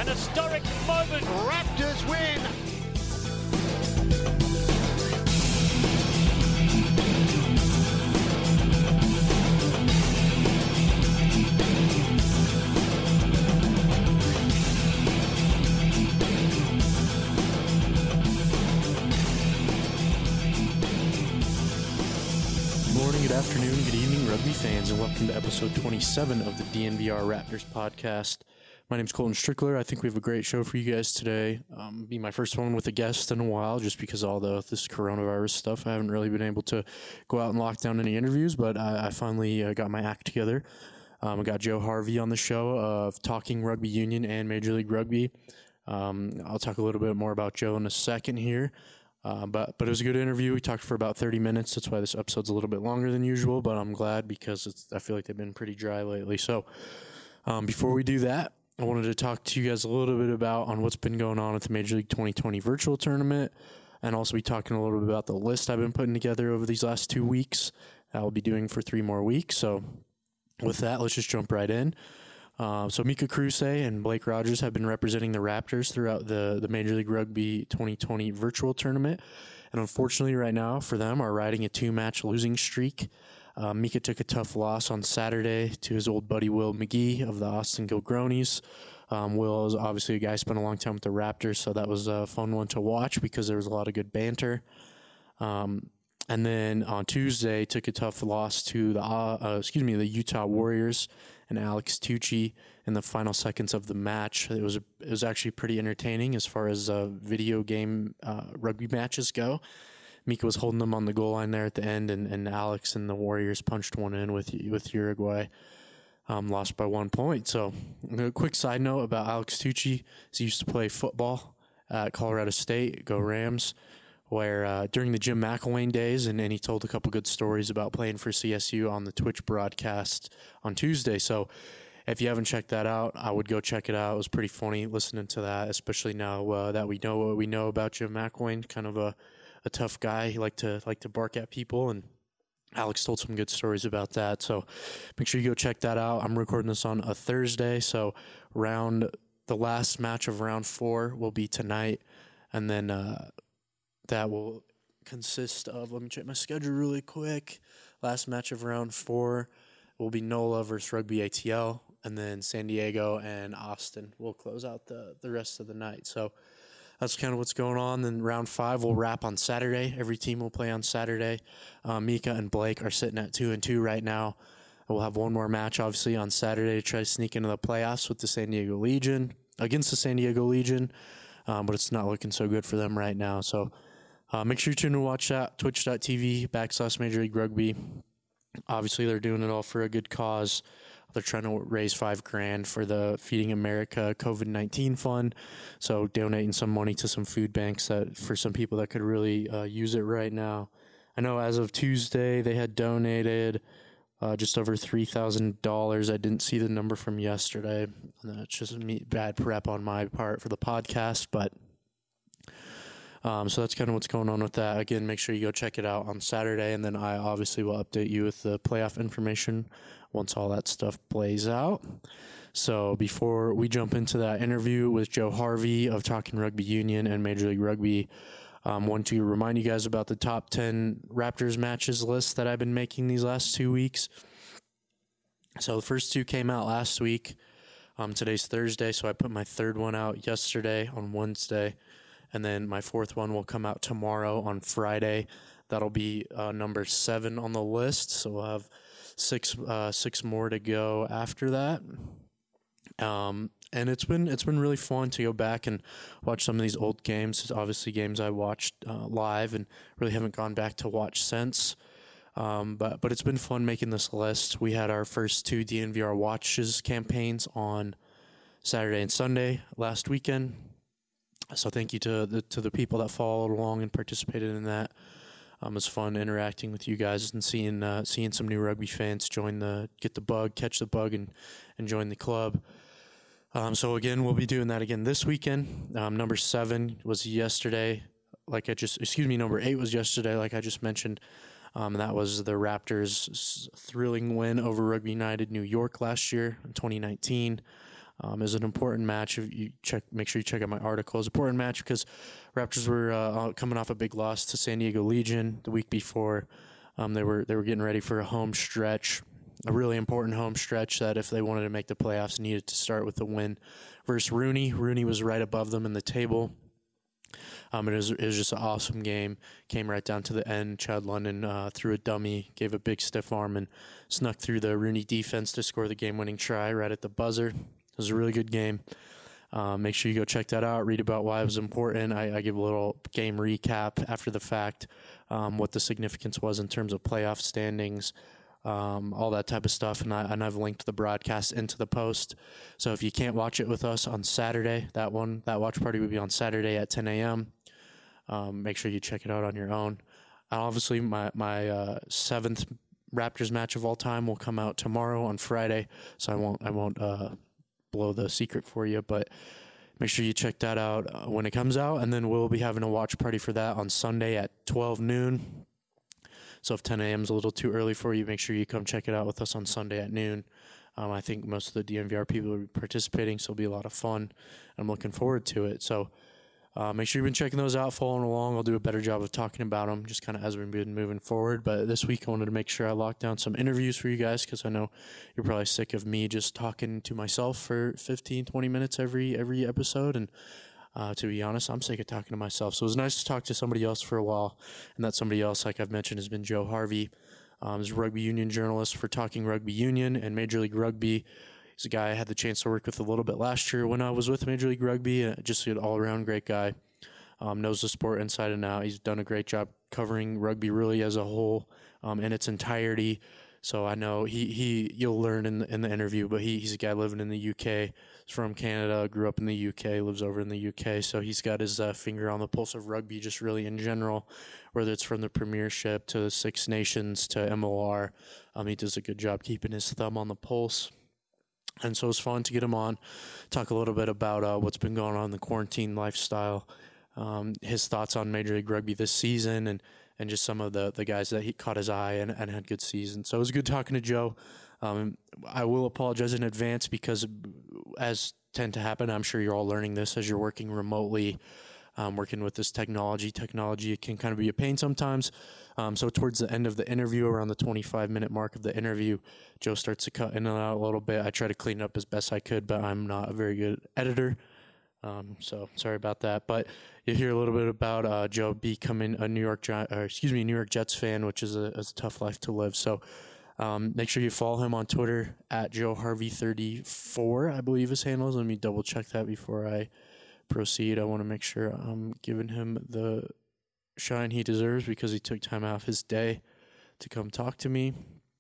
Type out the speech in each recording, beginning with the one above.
An historic moment. Raptors win. Good afternoon, good evening, rugby fans, and welcome to episode 27 of the DNVR Raptors podcast. My name's Colton Strickler. I think we have a great show for you guys today. Be my first one with a guest in a while, just because all this coronavirus stuff. I haven't really been able to go out and lock down any interviews, but I finally got my act together. I got Joe Harvey on the show of Talking Rugby Union and Major League Rugby. I'll talk a little bit more about Joe in a second here. But it was a good interview. We talked for about 30 minutes. That's why this episode's a little bit longer than usual, but I'm glad because I feel like they've been pretty dry lately. So before we do that, I wanted to talk to you guys a little bit about on what's been going on at the Major League 2020 virtual tournament, and also be talking a little bit about the list I've been putting together over these last 2 weeks. I'll be doing for 3 more weeks. So with that, let's just jump right in. So Mika Kruse and Blake Rogers have been representing the Raptors throughout the Major League Rugby 2020 virtual tournament. And unfortunately right now for them are riding a 2-match losing streak. Mika took a tough loss on Saturday to his old buddy Will McGee of the Austin Gilgronis. Will is obviously a guy who spent a long time with the Raptors, so that was a fun one to watch because there was a lot of good banter. And then on Tuesday, took a tough loss to the Utah Warriors and Alex Tucci in the final seconds of the match. It was actually pretty entertaining as far as video game rugby matches go. Mika was holding them on the goal line there at the end, and Alex and the Warriors punched one in with Uruguay. Lost by 1 point. So a quick side note about Alex Tucci is he used to play football at Colorado State, go Rams, where during the Jim McElwain days, and he told a couple good stories about playing for CSU on the Twitch broadcast on Tuesday. So if you haven't checked that out, I would go check it out. It was pretty funny listening to that, especially now that we know what we know about Jim McElwain, kind of a tough guy. He liked to bark at people, and Alex told some good stories about that. So make sure you go check that out. I'm recording this on a Thursday, so the last match of round 4 will be tonight, and then that will consist of, let me check my schedule really quick. Last match of round 4 will be NOLA versus Rugby ATL, and then San Diego and Austin will close out the rest of the night. So that's kind of what's going on. Then round 5 will wrap on Saturday. Every team will play on Saturday. Mika and Blake are sitting at 2-2 right now. We'll have one more match, obviously, on Saturday to try to sneak into the playoffs with the San Diego Legion, against the San Diego Legion, but it's not looking so good for them right now. So make sure you tune in to watch that, twitch.tv/Major League Rugby. Obviously, they're doing it all for a good cause. They're trying to raise $5,000 for the Feeding America COVID-19 fund. So donating some money to some food banks that for some people that could really use it right now. I know as of Tuesday, they had donated just over $3,000. I didn't see the number from yesterday. That's just bad prep on my part for the podcast, but so that's kind of what's going on with that. Again, make sure you go check it out on Saturday, and then I obviously will update you with the playoff information once all that stuff plays out. So before we jump into that interview with Joe Harvey of Talking Rugby Union and Major League Rugby, I want to remind you guys about the top 10 Raptors matches list that I've been making these last 2 weeks. So the first 2 came out last week. Today's Thursday, so I put my third one out yesterday on Wednesday. And then my 4th one will come out tomorrow on Friday. That'll be number 7 on the list. So we'll have six more to go after that. And it's been really fun to go back and watch some of these old games. It's obviously games I watched live and really haven't gone back to watch since. But it's been fun making this list. We had our first 2 DNVR Watches campaigns on Saturday and Sunday last weekend. So thank you to the people that followed along and participated in that. It's fun interacting with you guys and seeing some new rugby fans catch the bug, and join the club. So again, we'll be doing that again this weekend. Number 7 was yesterday, number 8 was yesterday, like I just mentioned. That was the Raptors' thrilling win over Rugby United New York last year in 2019. Is an important match. If you make sure you check out my article. It's an important match because Raptors were coming off a big loss to San Diego Legion the week before. They were getting ready for a home stretch, a really important home stretch that if they wanted to make the playoffs, needed to start with a win versus Rooney. Rooney was right above them in the table. It was just an awesome game. Came right down to the end. Chad London threw a dummy, gave a big stiff arm, and snuck through the Rooney defense to score the game-winning try right at the buzzer. It was a really good game. Make sure you go check that out, read about why it was important. I give a little game recap after the fact, what the significance was in terms of playoff standings, all that type of stuff. And I've linked the broadcast into the post. So if you can't watch it with us on Saturday, that watch party will be on Saturday at 10 a.m. Make sure you check it out on your own. Obviously, my seventh Raptors match of all time will come out tomorrow on Friday. So I won't blow the secret for you, but make sure you check that out when it comes out. And then we'll be having a watch party for that on Sunday at 12 noon. So if 10 a.m. is a little too early for you, make sure you come check it out with us on Sunday at noon. I think most of the DNVR people will be participating, so it'll be a lot of fun. I'm looking forward to it. So make sure you've been checking those out, following along. I'll do a better job of talking about them just kind of as we've been moving forward. But this week I wanted to make sure I locked down some interviews for you guys because I know you're probably sick of me just talking to myself for 15, 20 minutes every episode. And to be honest, I'm sick of talking to myself. So it was nice to talk to somebody else for a while. And that somebody else, like I've mentioned, has been Joe Harvey. He's a rugby union journalist for Talking Rugby Union and Major League Rugby. He's a guy I had the chance to work with a little bit last year when I was with Major League Rugby. Just an all-around great guy. Knows the sport inside and out. He's done a great job covering rugby really as a whole in its entirety. So I know you'll learn in the interview, but he's a guy living in the UK. He's from Canada, grew up in the UK, lives over in the UK. So he's got his finger on the pulse of rugby just really in general, whether it's from the Premiership to the Six Nations to MLR. He does a good job keeping his thumb on the pulse. And so it's fun to get him on, talk a little bit about what's been going on in the quarantine lifestyle, his thoughts on Major League Rugby this season, and just some of the guys that he caught his eye and had good seasons. So it was good talking to Joe. I will apologize in advance because, as tend to happen, I'm sure you're all learning this as you're working remotely, working with this technology. Technology can kind of be a pain sometimes. So towards the end of the interview, around the 25-minute mark of the interview, Joe starts to cut in and out a little bit. I try to clean it up as best I could, but I'm not a very good editor. So sorry about that. But you hear a little bit about Joe becoming a New York Jets fan, which is a tough life to live. So make sure you follow him on Twitter at JoeHarvey34, I believe his handle is. Let me double check that before I proceed. I want to make sure I'm giving him the shine he deserves because he took time out of his day to come talk to me.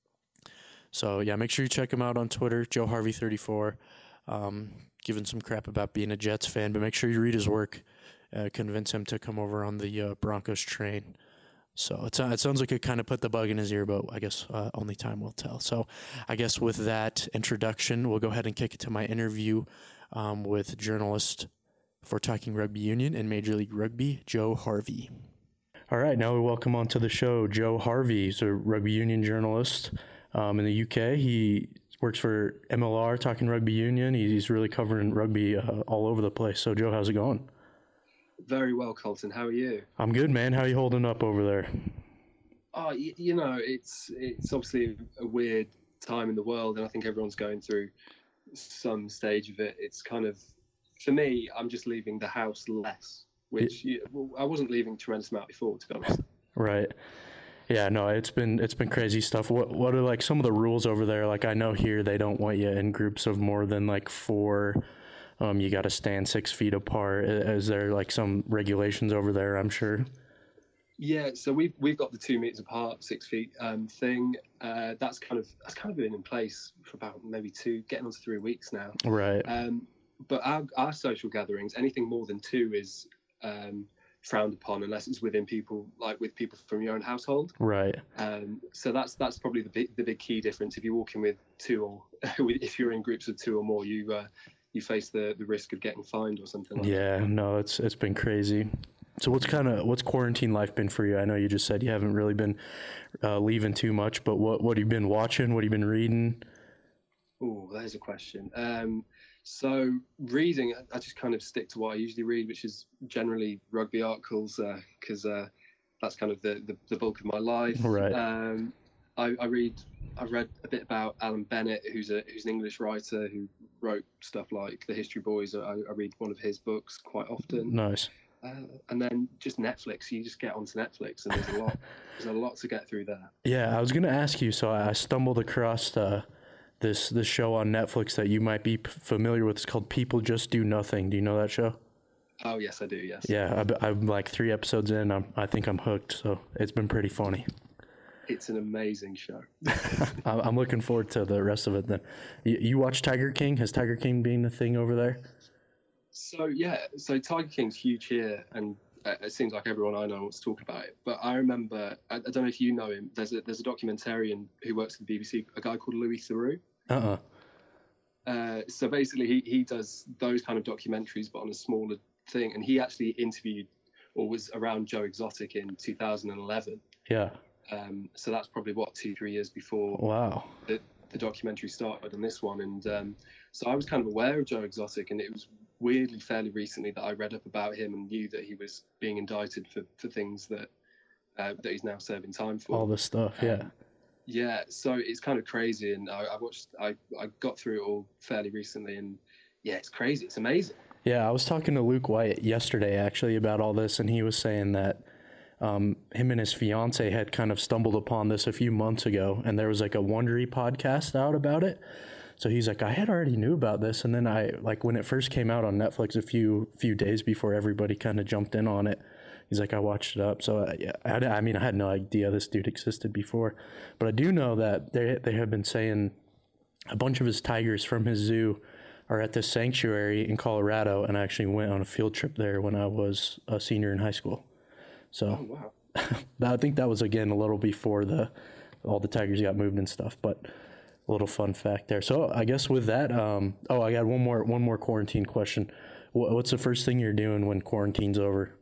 So yeah, make sure you check him out on Twitter, JoeHarvey34. Giving some crap about being a Jets fan, but make sure you read his work. Convince him to come over on the Broncos train. So it sounds like it kind of put the bug in his ear, but I guess only time will tell. So I guess with that introduction, we'll go ahead and kick it to my interview with journalist for Talking Rugby Union and Major League Rugby, Joe Harvey. All right, now we welcome onto the show Joe Harvey. He's a rugby union journalist in the UK. He works for MLR, Talking Rugby Union. He's really covering rugby all over the place. So, Joe, how's it going? Very well, Colton. How are you? I'm good, man. How are you holding up over there? Oh, you know, it's obviously a weird time in the world, and I think everyone's going through some stage of it. It's kind of, for me, I'm just leaving the house less, which I wasn't leaving a tremendous amount before, to be honest. Right. Yeah, no, it's been crazy stuff. What are like some of the rules over there? Like I know here they don't want you in groups of more than like 4. You got to stand 6 feet apart. Is there like some regulations over there? I'm sure. Yeah, so we've got the 2 meters apart, 6 feet thing. That's kind of been in place for about maybe getting on to 3 weeks now. Right. But our social gatherings, anything more than 2 is frowned upon unless it's with people from your own household. Right. So that's probably the big key difference. If you're walking with 2 or if you're in groups of 2 or more, you face the risk of getting fined or something like that. Yeah, no, it's been crazy. So what's quarantine life been for you? I know you just said you haven't really been leaving too much, but what have you been watching? What have you been reading? Oh, there's a question. So reading, I just kind of stick to what I usually read, which is generally rugby articles, because that's kind of the bulk of my life. Right. I've read a bit about Alan Bennett, who's an English writer who wrote stuff like The History Boys. I read one of his books quite often. Nice. And then just Netflix. You just get onto Netflix, and there's a lot to get through there. Yeah, I was gonna ask you. So I stumbled across this show on Netflix that you might be familiar with. It's called People Just Do Nothing. Do you know that show? Oh yes, I do. Yes. Yeah, I'm like 3 episodes in. I think I'm hooked. So it's been pretty funny. It's an amazing show. I'm looking forward to the rest of it. Then, you watch Tiger King? Has Tiger King been a thing over there? So Tiger King's huge here, and it seems like everyone I know wants to talk about it. But I remember, I don't know if you know him. There's a documentarian who works at the BBC, a guy called Louis Theroux. So basically, he does those kind of documentaries, but on a smaller thing. And he actually interviewed, or was around Joe Exotic in 2011. Yeah. So that's probably 2-3 years before. Wow. The documentary started on this one, and so I was kind of aware of Joe Exotic, and it was weirdly fairly recently that I read up about him and knew that he was being indicted for things that he's now serving time for. All this stuff, yeah. Yeah, so it's kind of crazy, and I got through it all fairly recently, and yeah, it's crazy. It's amazing. Yeah, I was talking to Luke White yesterday actually about all this, and he was saying that him and his fiance had kind of stumbled upon this a few months ago, and there was like a Wondery podcast out about it. So he's like, I had already knew about this, and then I, like, when it first came out on Netflix a few days before everybody kind of jumped in on it, he's like, I watched it up. So yeah, I mean, I had no idea this dude existed before, but I do know that they have been saying a bunch of his tigers from his zoo are at this sanctuary in Colorado, and I actually went on a field trip there when I was a senior in high school. So wow. I think that was, again, a little before all the tigers got moved and stuff, but a little fun fact there. So I guess with that, I got one more quarantine question. What's the first thing you're doing when quarantine's over?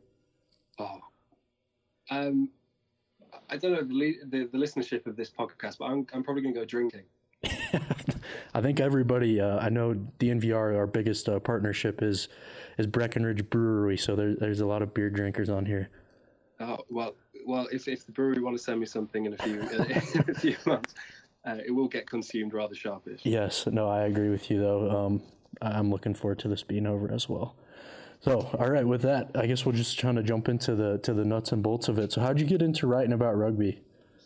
I don't know the listenership of this podcast, but I'm probably going to go drinking. I think everybody, I know DNVR, our biggest partnership is Breckenridge Brewery, so there's a lot of beer drinkers on here. Oh, well, if the brewery want to send me something in a few months, it will get consumed rather sharpish. Yes, no, I agree with you though. I'm looking forward to this being over as well. So, all right, with that, I guess we'll just try to jump into the nuts and bolts of it. So, how'd you get into writing about rugby?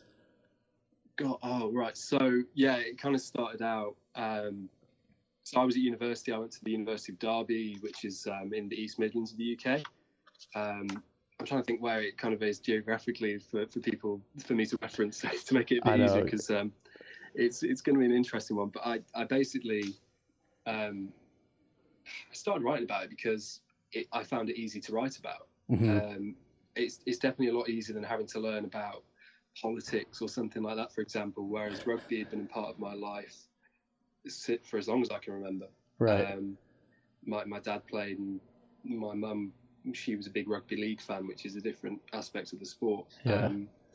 Right. So, yeah, it kind of started out. So, I was at university. I went to the University of Derby, which is in the East Midlands of the UK. I'm trying to think where it kind of is geographically for people, for me to reference to make it a bit easier, because it's going to be an interesting one. But I basically I started writing about it because I found it easy to write about. Mm-hmm. It's definitely a lot easier than having to learn about politics or something like that, for example, whereas rugby had been a part of my life for as long as I can remember. Right. My dad played, and my mum, she was a big rugby league fan, which is a different aspect of the sport. Yeah.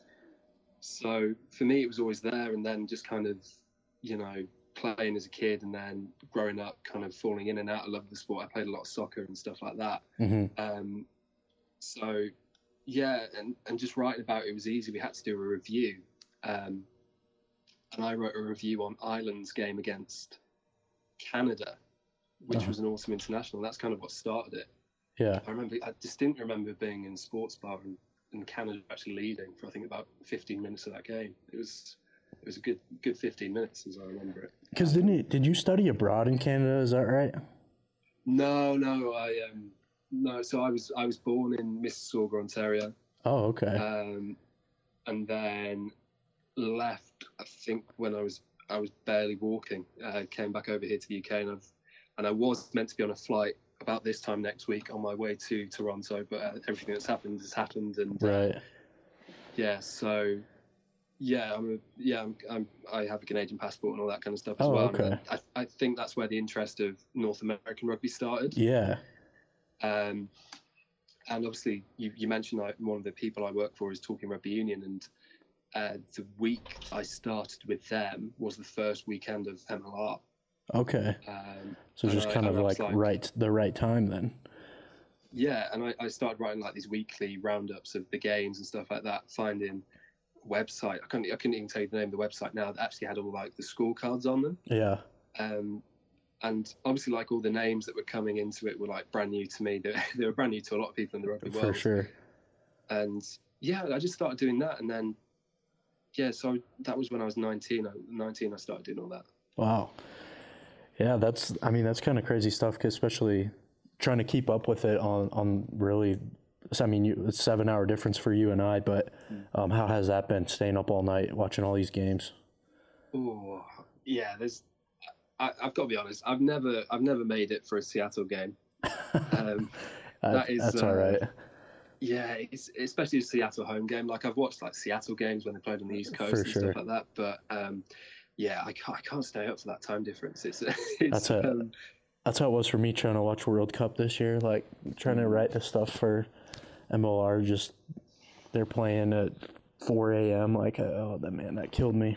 So for me, it was always there, and then just kind of, playing as a kid, and then growing up, kind of falling in and out of love of the sport. I played a lot of soccer and stuff like that. Mm-hmm. So yeah, and just writing about it was easy. We had to do a review, and I wrote a review on Ireland's game against Canada, which was an awesome international. That's kind of what started it. Yeah, I distinctly remember being in sports bar and Canada actually leading for, I think, about 15 minutes of that game. It was a good 15 minutes, as I remember it. Because did you study abroad in Canada? Is that right? No, no. So I was born in Mississauga, Ontario. Oh, okay. And then left, I think, when I was barely walking. Came back over here to the UK, and I was meant to be on a flight about this time next week on my way to Toronto, but everything that's happened has happened, and right. Yeah, so yeah, I have a Canadian passport and all that kind of stuff as well. Okay. I think that's where the interest of North American rugby started. Yeah. And obviously, you mentioned one of the people I work for is Talking Rugby Union, and the week I started with them was the first weekend of MLR. Okay. So and just kind of like the right time then. Yeah, and I started writing like these weekly roundups of the games and stuff like that, finding a website. I couldn't even tell you the name of the website now that actually had all like the scorecards on them. Yeah. And obviously, like all the names that were coming into it were like brand new to me. They were brand new to a lot of people in the rugby world. For sure. And yeah, I just started doing that, and then so that was when I was 19. I started doing all that. Wow. Yeah, that's kind of crazy stuff, 'cause especially trying to keep up with it on really, I mean, it's a 7-hour difference for you and I, but how has that been, staying up all night watching all these games? Oh, yeah, I've got to be honest, I've never made it for a Seattle game. That's all right. Yeah, it's especially a Seattle home game. Like I've watched like Seattle games when they played on the East Coast stuff like that, but yeah, I can't stay up for that time difference. That's how it was for me trying to watch World Cup this year. Like trying to write the stuff for MLR, just they're playing at 4 a.m. Like, that killed me.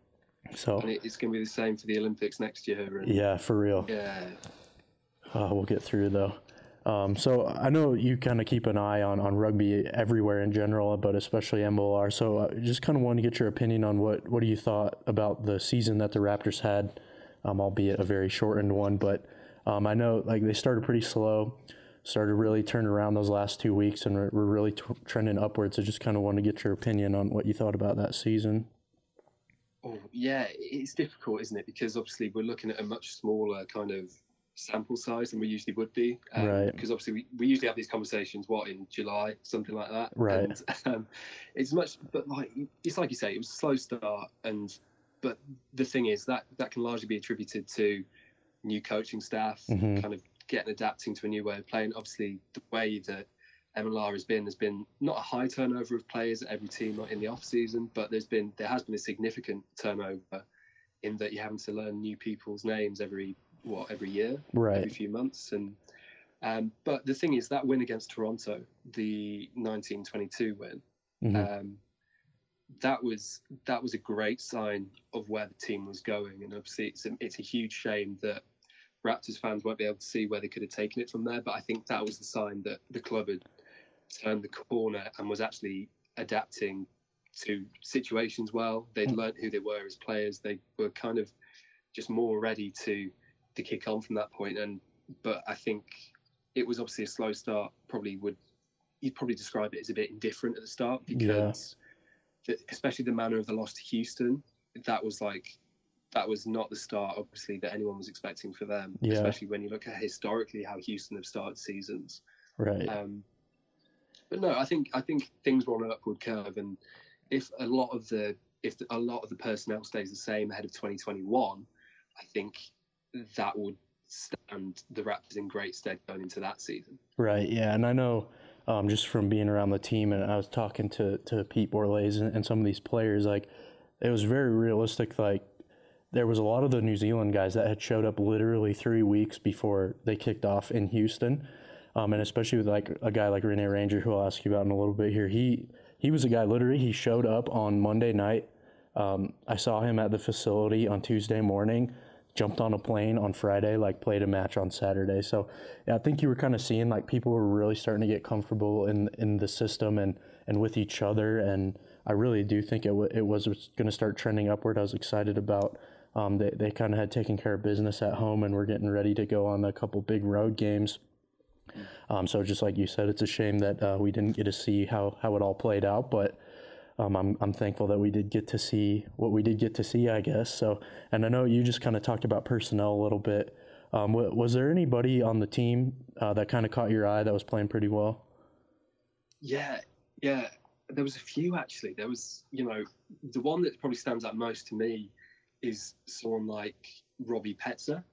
So and it's going to be the same for the Olympics next year. And, yeah, for real. Yeah. We'll get through though. So I know you kind of keep an eye on rugby everywhere in general, but especially MLR. So I just kind of wanted to get your opinion on what do you thought about the season that the Raptors had, albeit a very shortened one. But I know like they started pretty slow, started really turning around those last 2 weeks, and we're really trending upwards. I just kind of wanted to get your opinion on what you thought about that season. Oh, yeah, it's difficult, isn't it? Because obviously we're looking at a much smaller kind of sample size than we usually would be. Right. Because obviously we usually have these conversations, in July, something like that. Right. And it's much, but it's like you say, it was a slow start. But the thing is that can largely be attributed to new coaching staff, kind of adapting to a new way of playing. Obviously, the way that MLR has been not a high turnover of players at every team in the off season, but there has been a significant turnover in that you're having to learn new people's names every year, right, every few months. And but the thing is that win against Toronto, the 1922 win, that was a great sign of where the team was going. And obviously it's a huge shame that Raptors fans won't be able to see where they could have taken it from there. But I think that was the sign that the club had turned the corner and was actually adapting to situations well. They'd learnt who they were as players. They were kind of just more ready to kick on from that point. But I think it was obviously a slow start. You'd probably describe it as a bit indifferent at the start, because especially the manner of the loss to Houston, that was not the start, obviously, that anyone was expecting for them, especially when you look at historically how Houston have started seasons. Right. But no, I think things were on an upward curve, and if a lot of the personnel stays the same ahead of 2021, I think that would stand the Raptors in great stead going into that season. Right. Yeah, and I know just from being around the team, and I was talking to Pete Borlase and some of these players, like it was very realistic. Like there was a lot of the New Zealand guys that had showed up literally 3 weeks before they kicked off in Houston. And especially with like a guy like Rene Ranger, who I'll ask you about in a little bit here. He was a guy, literally, he showed up on Monday night. I saw him at the facility on Tuesday morning, jumped on a plane on Friday, like played a match on Saturday. So yeah, I think you were kind of seeing like people were really starting to get comfortable in the system and with each other. And I really do think it was going to start trending upward. I was excited about they kind of had taken care of business at home, and we're getting ready to go on a couple big road games. So just like you said, it's a shame that we didn't get to see how it all played out, but I'm thankful that we did get to see what we did get to see, I guess. So, and I know you just kind of talked about personnel a little bit. Was there anybody on the team that kind of caught your eye that was playing pretty well? Yeah. There was a few, actually. There was, the one that probably stands out most to me is someone like Robbie Petzer,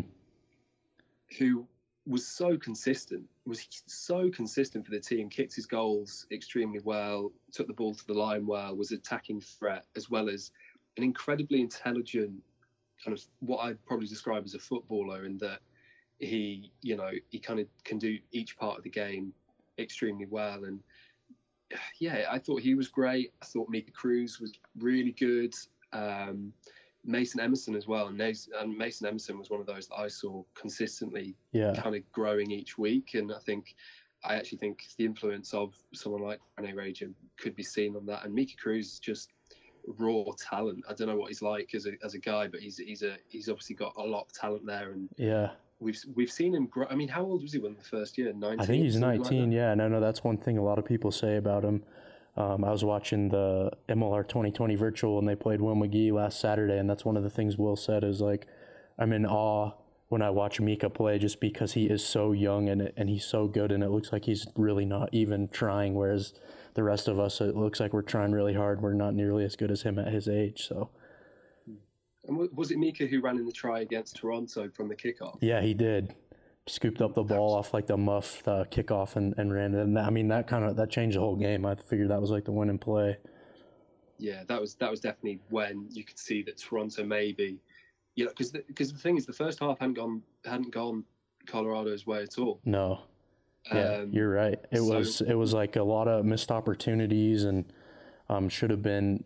who was so consistent for the team, kicked his goals extremely well, took the ball to the line well, was attacking threat, as well as an incredibly intelligent kind of what I'd probably describe as a footballer, in that he kind of can do each part of the game extremely well. And yeah, I thought he was great. I thought Mika Cruz was really good. Mason Emerson as well. And Mason Emerson was one of those that I saw consistently kind of growing each week. And I actually think the influence of someone like Rene Ranger could be seen on that. And Mika Cruz is just raw talent. I don't know what he's like as a guy, but he's obviously got a lot of talent there. And we've seen him grow. I mean, how old was he when the first year? 19? I think he's 19. Like and I know that's one thing a lot of people say about him. I was watching the MLR 2020 virtual, and they played Will McGee last Saturday, and that's one of the things Will said is, like, I'm in awe when I watch Mika play just because he is so young and he's so good, and it looks like he's really not even trying, whereas the rest of us, it looks like we're trying really hard. We're not nearly as good as him at his age. So. And was it Mika who ran in the try against Toronto from the kickoff? Yeah, he did. Scooped up the ball off like the muff kickoff and ran it. And that changed the whole game. I figured that was like the winning play. Yeah, that was definitely when you could see that Toronto maybe, because the thing is, the first half hadn't gone Colorado's way at all. No. Yeah, you're right. It was like a lot of missed opportunities and should have been.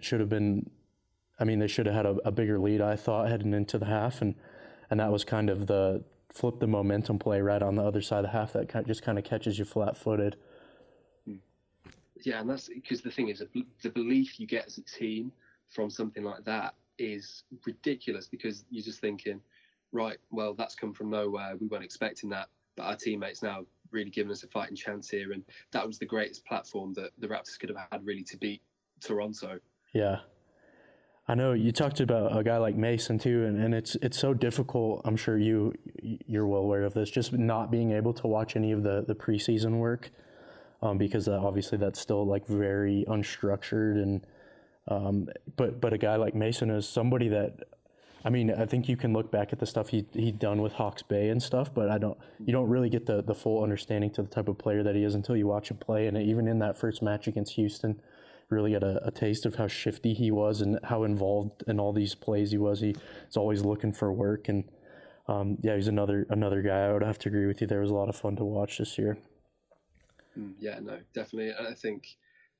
I mean, they should have had a bigger lead, I thought, heading into the half, and that was kind of the flip the momentum play right on the other side of the half that just kind of catches you flat-footed. Yeah, and that's because the thing is, the belief you get as a team from something like that is ridiculous, because you're just thinking, right, well, that's come from nowhere. We weren't expecting that, but our teammates now really giving us a fighting chance here, and that was the greatest platform that the Raptors could have had really to beat Toronto. Yeah. I know you talked about a guy like Mason too, and it's so difficult. I'm sure you're well aware of this, just not being able to watch any of the preseason work, because obviously that's still like very unstructured, and but a guy like Mason is somebody that, I mean, I think you can look back at the stuff he'd done with Hawke's Bay and stuff, but you don't really get the full understanding to the type of player that he is until you watch him play. And even in that first match against Houston, really got a taste of how shifty he was and how involved in all these plays he was. He's always looking for work, and he's another guy. I would have to agree with you. There was a lot of fun to watch this year. Yeah, no, definitely. I think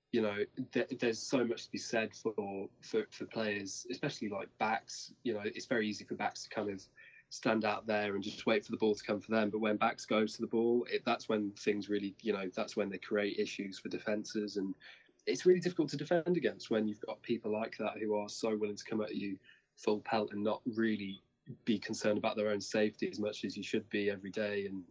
there's so much to be said for players, especially like backs. It's very easy for backs to kind of stand out there and just wait for the ball to come for them. But when backs go to the ball, that's when things really, that's when they create issues for defenses, and it's really difficult to defend against when you've got people like that who are so willing to come at you full pelt and not really be concerned about their own safety as much as you should be every day. And,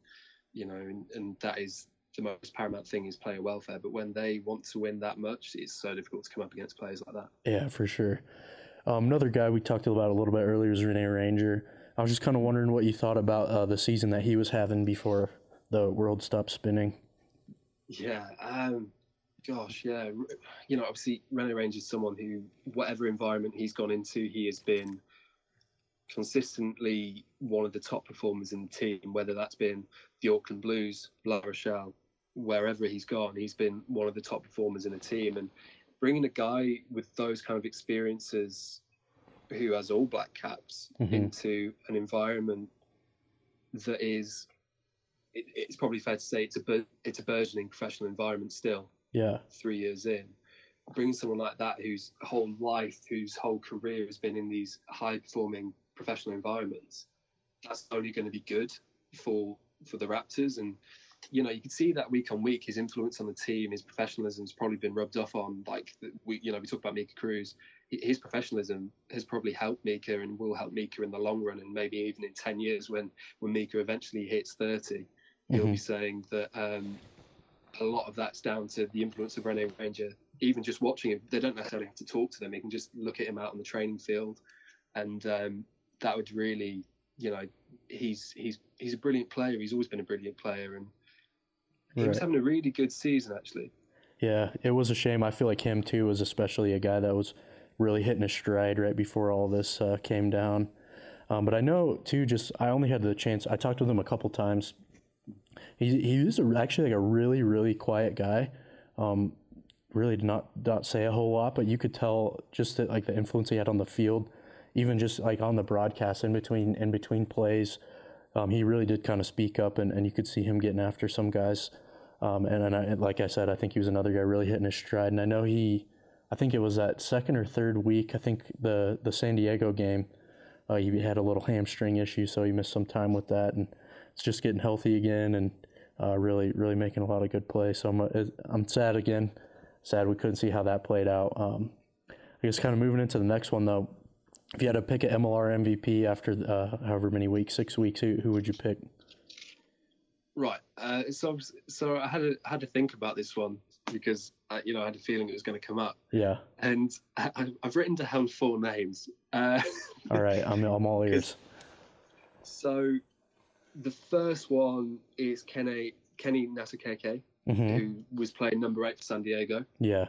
and that is the most paramount thing, is player welfare. But when they want to win that much, it's so difficult to come up against players like that. Yeah, for sure. Another guy we talked about a little bit earlier is Rene Ranger. I was just kind of wondering what you thought about the season that he was having before the world stopped spinning. Yeah, gosh, yeah. Obviously, Rene Ranger is someone who, whatever environment he's gone into, he has been consistently one of the top performers in the team, whether that's been the Auckland Blues, La Rochelle, wherever he's gone, he's been one of the top performers in the team. And bringing a guy with those kind of experiences who has all black caps into an environment that is, it's probably fair to say it's a burgeoning professional environment still. Yeah. 3 years in, bringing someone like that whose whole life, whose whole career has been in these high-performing professional environments, that's only going to be good for the Raptors. And you can see that week on week, his influence on the team, his professionalism has probably been rubbed off on. Like we talk about Mika Cruz, his professionalism has probably helped Mika and will help Mika in the long run, and maybe even in 10 years when Mika eventually hits 30, he'll be saying that a lot of that's down to the influence of Rene Ranger. Even just watching him, they don't necessarily have to talk to them. They can just look at him out on the training field, and that would really, he's a brilliant player. He's always been a brilliant player, and he was having a really good season, actually. Yeah, it was a shame. I feel like him too was especially a guy that was really hitting his stride right before all this came down. But I know too. I only had the chance. I talked with him a couple times. He was actually like a really, really quiet guy. Really did not say a whole lot, but you could tell just that, like, the influence he had on the field, even just like on the broadcast in between plays. He really did kind of speak up, and you could see him getting after some guys. And like I said, I think he was another guy really hitting his stride. And I know he I think it was that second or third week. I think the San Diego game, he had a little hamstring issue, so he missed some time with that, and it's just getting healthy again, and really making a lot of good plays. So I'm sad again. Sad we couldn't see how that played out. I guess kind of moving into the next one though. If you had to pick an MLR MVP after however many weeks, 6 weeks, who would you pick? Right. So I had to think about this one because I had a feeling it was going to come up. Yeah. And I've written down 4 names. All right, I'm all ears. So the first one is Kenny Nasakeke, who was playing number 8 for San Diego. Yeah.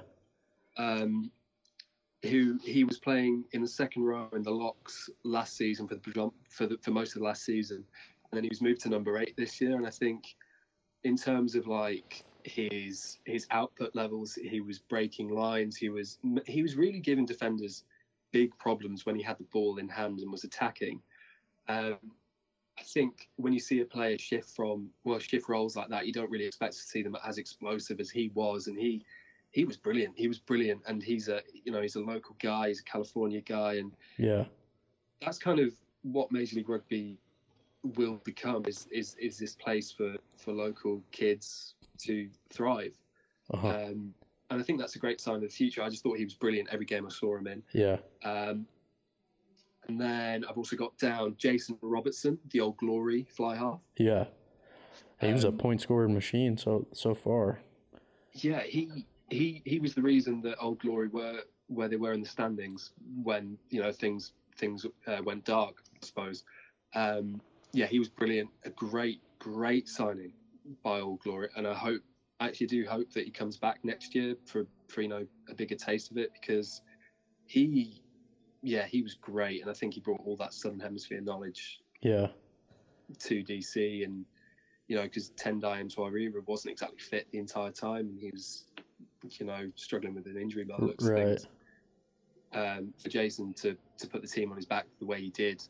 Who he was playing in the second row in the locks last season for most of the last season, and then he was moved to number 8 this year. And I think in terms of like his output levels, he was breaking lines. He was really giving defenders big problems when he had the ball in hand and was attacking. I think when you see a player shift roles like that, you don't really expect to see them as explosive as he was, and he was brilliant. He was brilliant, and he's a local guy. He's a California guy, and yeah, that's kind of what Major League Rugby will become. Is this place for local kids to thrive? And I think that's a great sign of the future. I just thought he was brilliant every game I saw him in. Yeah. And then I've also got down Jason Robertson, the Old Glory fly half. Yeah, he was a point scoring machine so far. Yeah, he was the reason that Old Glory were where they were in the standings when things went dark, I suppose. Yeah, he was brilliant. A great signing by Old Glory, and I actually do hope that he comes back next year for a bigger taste of it, because he was great, and I think he brought all that Southern Hemisphere knowledge to DC, and because Tendai Mtwarira wasn't exactly fit the entire time, and he was struggling with an injury by the looks of things. For Jason to put the team on his back the way he did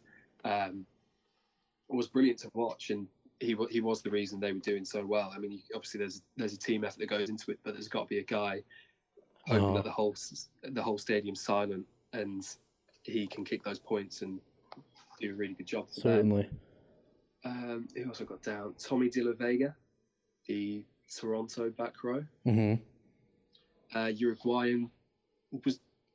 was brilliant to watch, and he was the reason they were doing so well. I mean, obviously there's a team effort that goes into it, but there's got to be a guy hoping that the whole stadium's silent and he can kick those points and do a really good job. Certainly. He also got down Tommy De La Vega, the Toronto back row. Uruguayan was,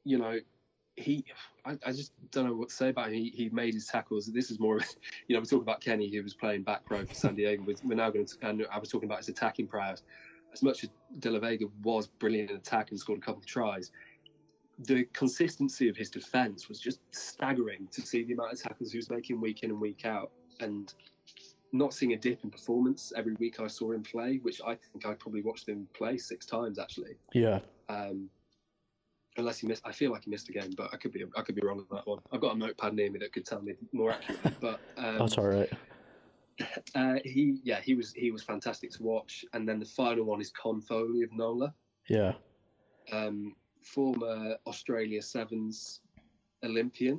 I just don't know what to say about him. He made his tackles. This is more, we talk about Kenny, who was playing back row for San Diego. We're now going to, I was talking about his attacking prowess. As much as De La Vega was brilliant in attack and scored a couple of tries, the consistency of his defence was just staggering to see the amount of tackles he was making week in and week out, and not seeing a dip in performance every week I saw him play, which I think I probably watched him play 6 times actually. Yeah. Unless he missed, I feel like he missed a game, but I could be wrong on that one. I've got a notepad near me that could tell me more accurately, but that's all right. He was fantastic to watch. And then the final one is Con Foley of NOLA. Yeah. Former Australia Sevens Olympian.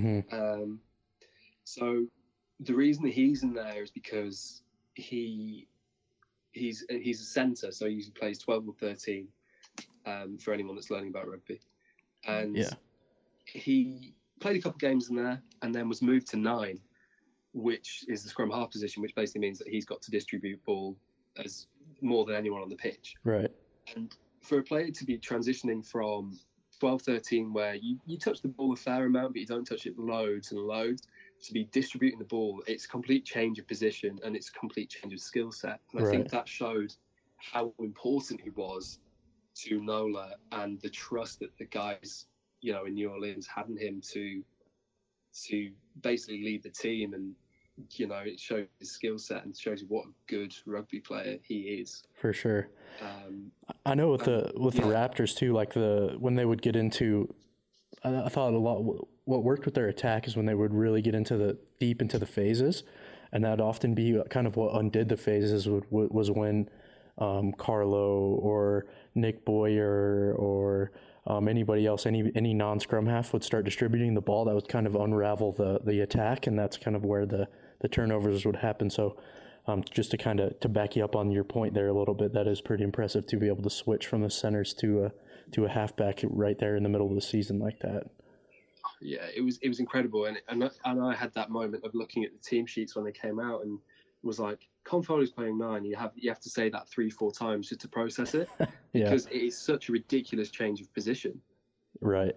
So the reason that he's in there is because he's a centre, so he usually plays 12 or 13 for anyone that's learning about rugby. And he played a couple of games in there and then was moved to 9, which is the scrum half position, which basically means that he's got to distribute ball as more than anyone on the pitch. Right. And for a player to be transitioning from 12-13, where you touch the ball a fair amount, but you don't touch it loads and loads, to be distributing the ball, it's a complete change of position and it's a complete change of skill set. And I think that showed how important he was to NOLA and the trust that the guys, in New Orleans had in him to basically lead the team. And, it shows his skill set and shows you what a good rugby player he is. For sure. I know with the Raptors too, like when they would get into, I thought a lot, what worked with their attack is when they would really get deep into the phases, and that'd often be kind of what undid the phases was when Carlo or Nick Boyer or anybody else, any non-scrum half would start distributing the ball. That would kind of unravel the attack, and that's kind of where the turnovers would happen. So Just to kind of to back you up on your point there a little bit, that is pretty impressive to be able to switch from the centers to a halfback right there in the middle of the season like that. Yeah, it was incredible, and I had that moment of looking at the team sheets when they came out and was like, Con Foley's playing 9. You have to say that 3-4 times just to process it, because it is such a ridiculous change of position. Right.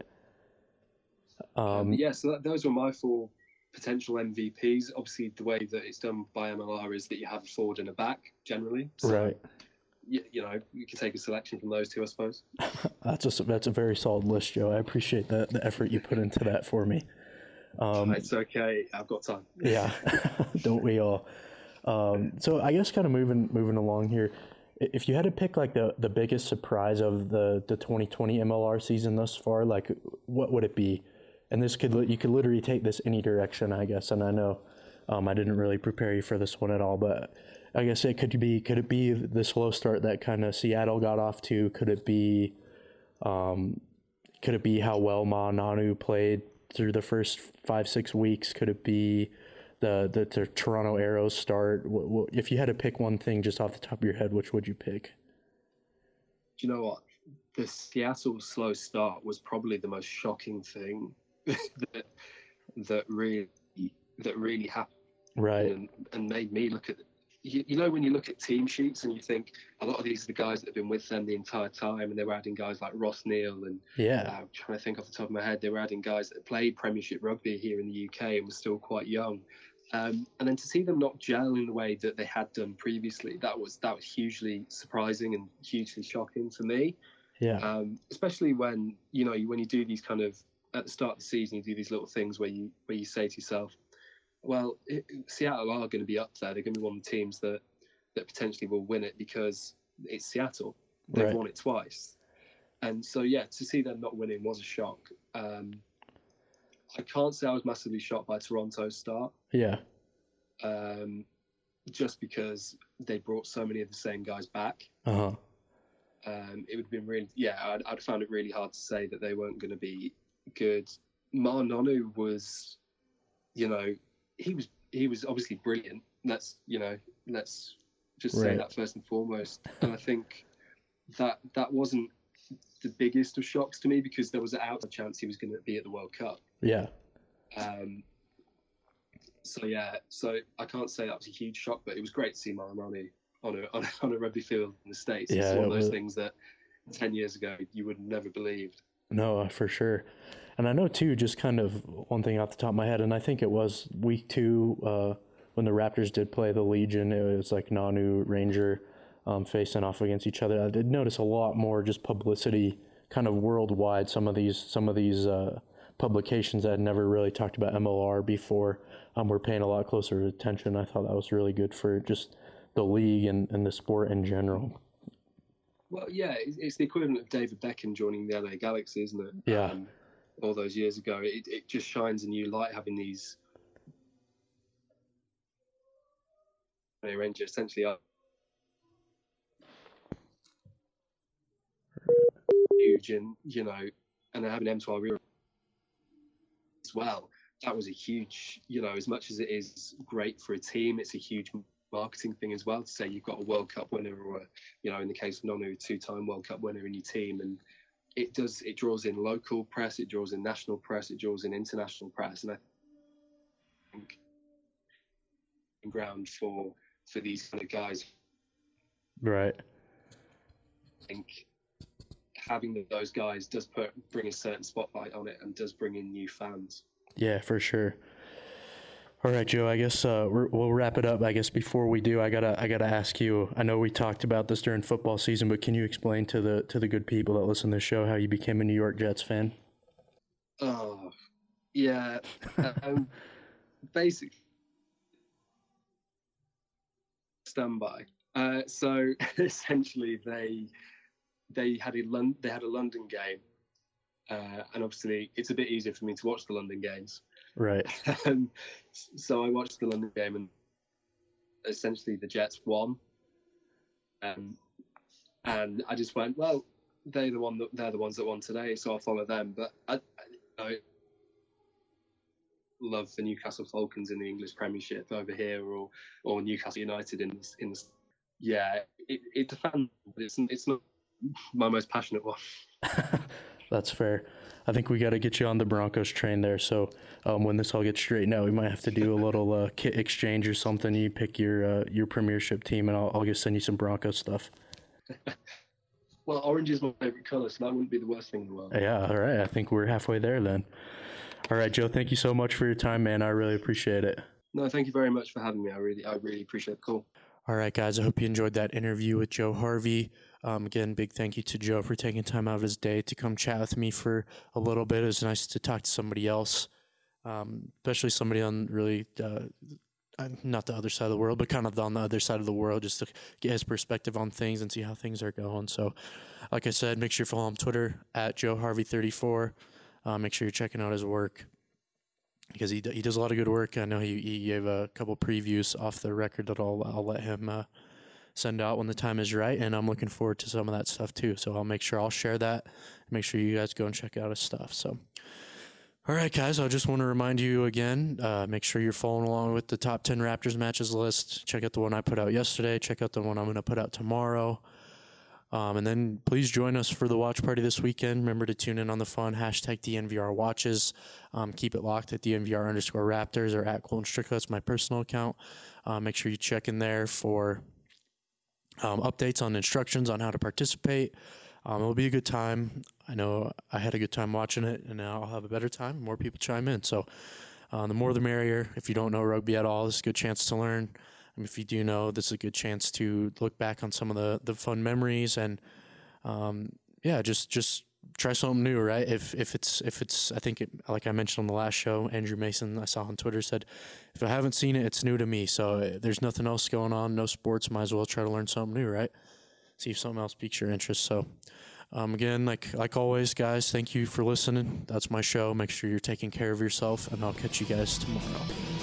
So those were my 4 potential MVPs. Obviously, the way that it's done by MLR is that you have a forward and a back generally. So, right. You can take a selection from those 2, I suppose. That's a very solid list, Joe. I appreciate the effort you put into that for me. It's okay. I've got time. Yeah, don't we all? So I guess kind of moving along here, if you had to pick like the biggest surprise of the 2020 MLR season thus far, like what would it be? And you could literally take this any direction, I guess. And I know I didn't really prepare you for this one at all, but I guess could it be the slow start that kind of Seattle got off to? Could it be how well Ma'a Nonu played through the first 5-6 weeks? Could it be the Toronto Arrows start? If you had to pick one thing just off the top of your head, which would you pick? Do you know what? The Seattle slow start was probably the most shocking thing that really happened. Right. And made me look at when you look at team sheets and you think a lot of these are the guys that have been with them the entire time, and they were adding guys like Ross Neal and I'm trying to think off the top of my head, they were adding guys that played Premiership rugby here in the UK and were still quite young, and then to see them not gel in the way that they had done previously, that was hugely surprising and hugely shocking for me. Especially when you do these kind of, at the start of the season, you do these little things where you say to yourself, well, Seattle are going to be up there. They're going to be one of the teams that potentially will win it because it's Seattle. They've won it twice. And so, to see them not winning was a shock. I can't say I was massively shocked by Toronto's start. Yeah. Just because they brought so many of the same guys back. Uh-huh. It would have been really, I'd found it really hard to say that they weren't going to be good. Ma'a Nonu was, he was obviously brilliant. Let's just say that first and foremost. And I think that wasn't the biggest of shocks to me, because there was an outside chance he was going to be at the World Cup. Yeah. So I can't say that was a huge shock, but it was great to see Ma'a Nonu on a rugby field in the States. Yeah, it's one of those things that 10 years ago you would have never believed. No, for sure. And I know too, just kind of one thing off the top of my head, and I think it was week 2 when the Raptors did play the Legion. It was like Nonu, Ranger facing off against each other. I did notice a lot more just publicity kind of worldwide. Some of these publications that had never really talked about MLR before were paying a lot closer attention. I thought that was really good for just the league and the sport in general. Well, it's the equivalent of David Beckham joining the LA Galaxy, isn't it? Yeah. All those years ago. It just shines a new light having these Rangers essentially are huge, and and they're having M12 as well. That was a huge, as much as it is great for a team, it's a huge marketing thing as well to say you've got a World Cup winner, or in the case of Nonu, a 2-time World Cup winner in your team, and it draws in local press, it draws in national press, it draws in international press, and I think ground for these kind of guys. Right. I think having those guys does bring a certain spotlight on it and does bring in new fans. Yeah, for sure. All right, Joe, I guess we'll wrap it up. I guess before we do, I gotta ask you, I know we talked about this during football season, but can you explain to the good people that listen to the show how you became a New York Jets fan? Oh, yeah. Basically, standby. So essentially, they had a London game, and obviously it's a bit easier for me to watch the London games. Right. So I watched the London game, and essentially the Jets won. And I just went, well, they're the ones that won today, so I'll follow them. But love the Newcastle Falcons in the English Premiership over here, or Newcastle United in the yeah, it's a fan, but it's not my most passionate one. That's fair. I think we got to get you on the Broncos train there. So when this all gets straightened out, we might have to do a little kit exchange or something. You pick your Premiership team, and I'll just send you some Broncos stuff. Well, orange is my favorite color, so that wouldn't be the worst thing in the world. Yeah, all right. I think we're halfway there then. All right, Joe, thank you so much for your time, man. I really appreciate it. No, thank you very much for having me. I really appreciate the call. All right, guys, I hope you enjoyed that interview with Joe Harvey. Again, big thank you to Joe for taking time out of his day to come chat with me for a little bit. It was nice to talk to somebody else, especially somebody on really not the other side of the world, but kind of on the other side of the world, just to get his perspective on things and see how things are going. So, like I said, make sure you follow him on Twitter at JoeHarvey34. Make sure you're checking out his work, because he does a lot of good work. I know he gave a couple previews off the record that I'll let him send out when the time is right, and I'm looking forward to some of that stuff too. So I'll make sure I'll share that. Make sure you guys go and check out his stuff. So, all right, guys, I just want to remind you again, make sure you're following along with the top 10 Raptors matches list. Check out the one I put out yesterday. Check out the one I'm going to put out tomorrow. And then please join us for the watch party this weekend. Remember to tune in on the fun, hashtag DNVR watches. Keep it locked at DNVR_Raptors or at Colton Strickler. That's my personal account. Make sure you check in there for updates on instructions on how to participate. It'll be a good time. I know I had a good time watching it, and now I'll have a better time. More people chime in. So the more the merrier. If you don't know rugby at all, this is a good chance to learn. If you do know, this is a good chance to look back on some of the fun memories, and just try something new, right? If it's I think like I mentioned on the last show, Andrew Mason I saw on Twitter said, if I haven't seen it, it's new to me. So there's nothing else going on, no sports, might as well try to learn something new, right? See if something else piques your interest. So again, like always, guys, thank you for listening. That's my show. Make sure you're taking care of yourself, and I'll catch you guys tomorrow.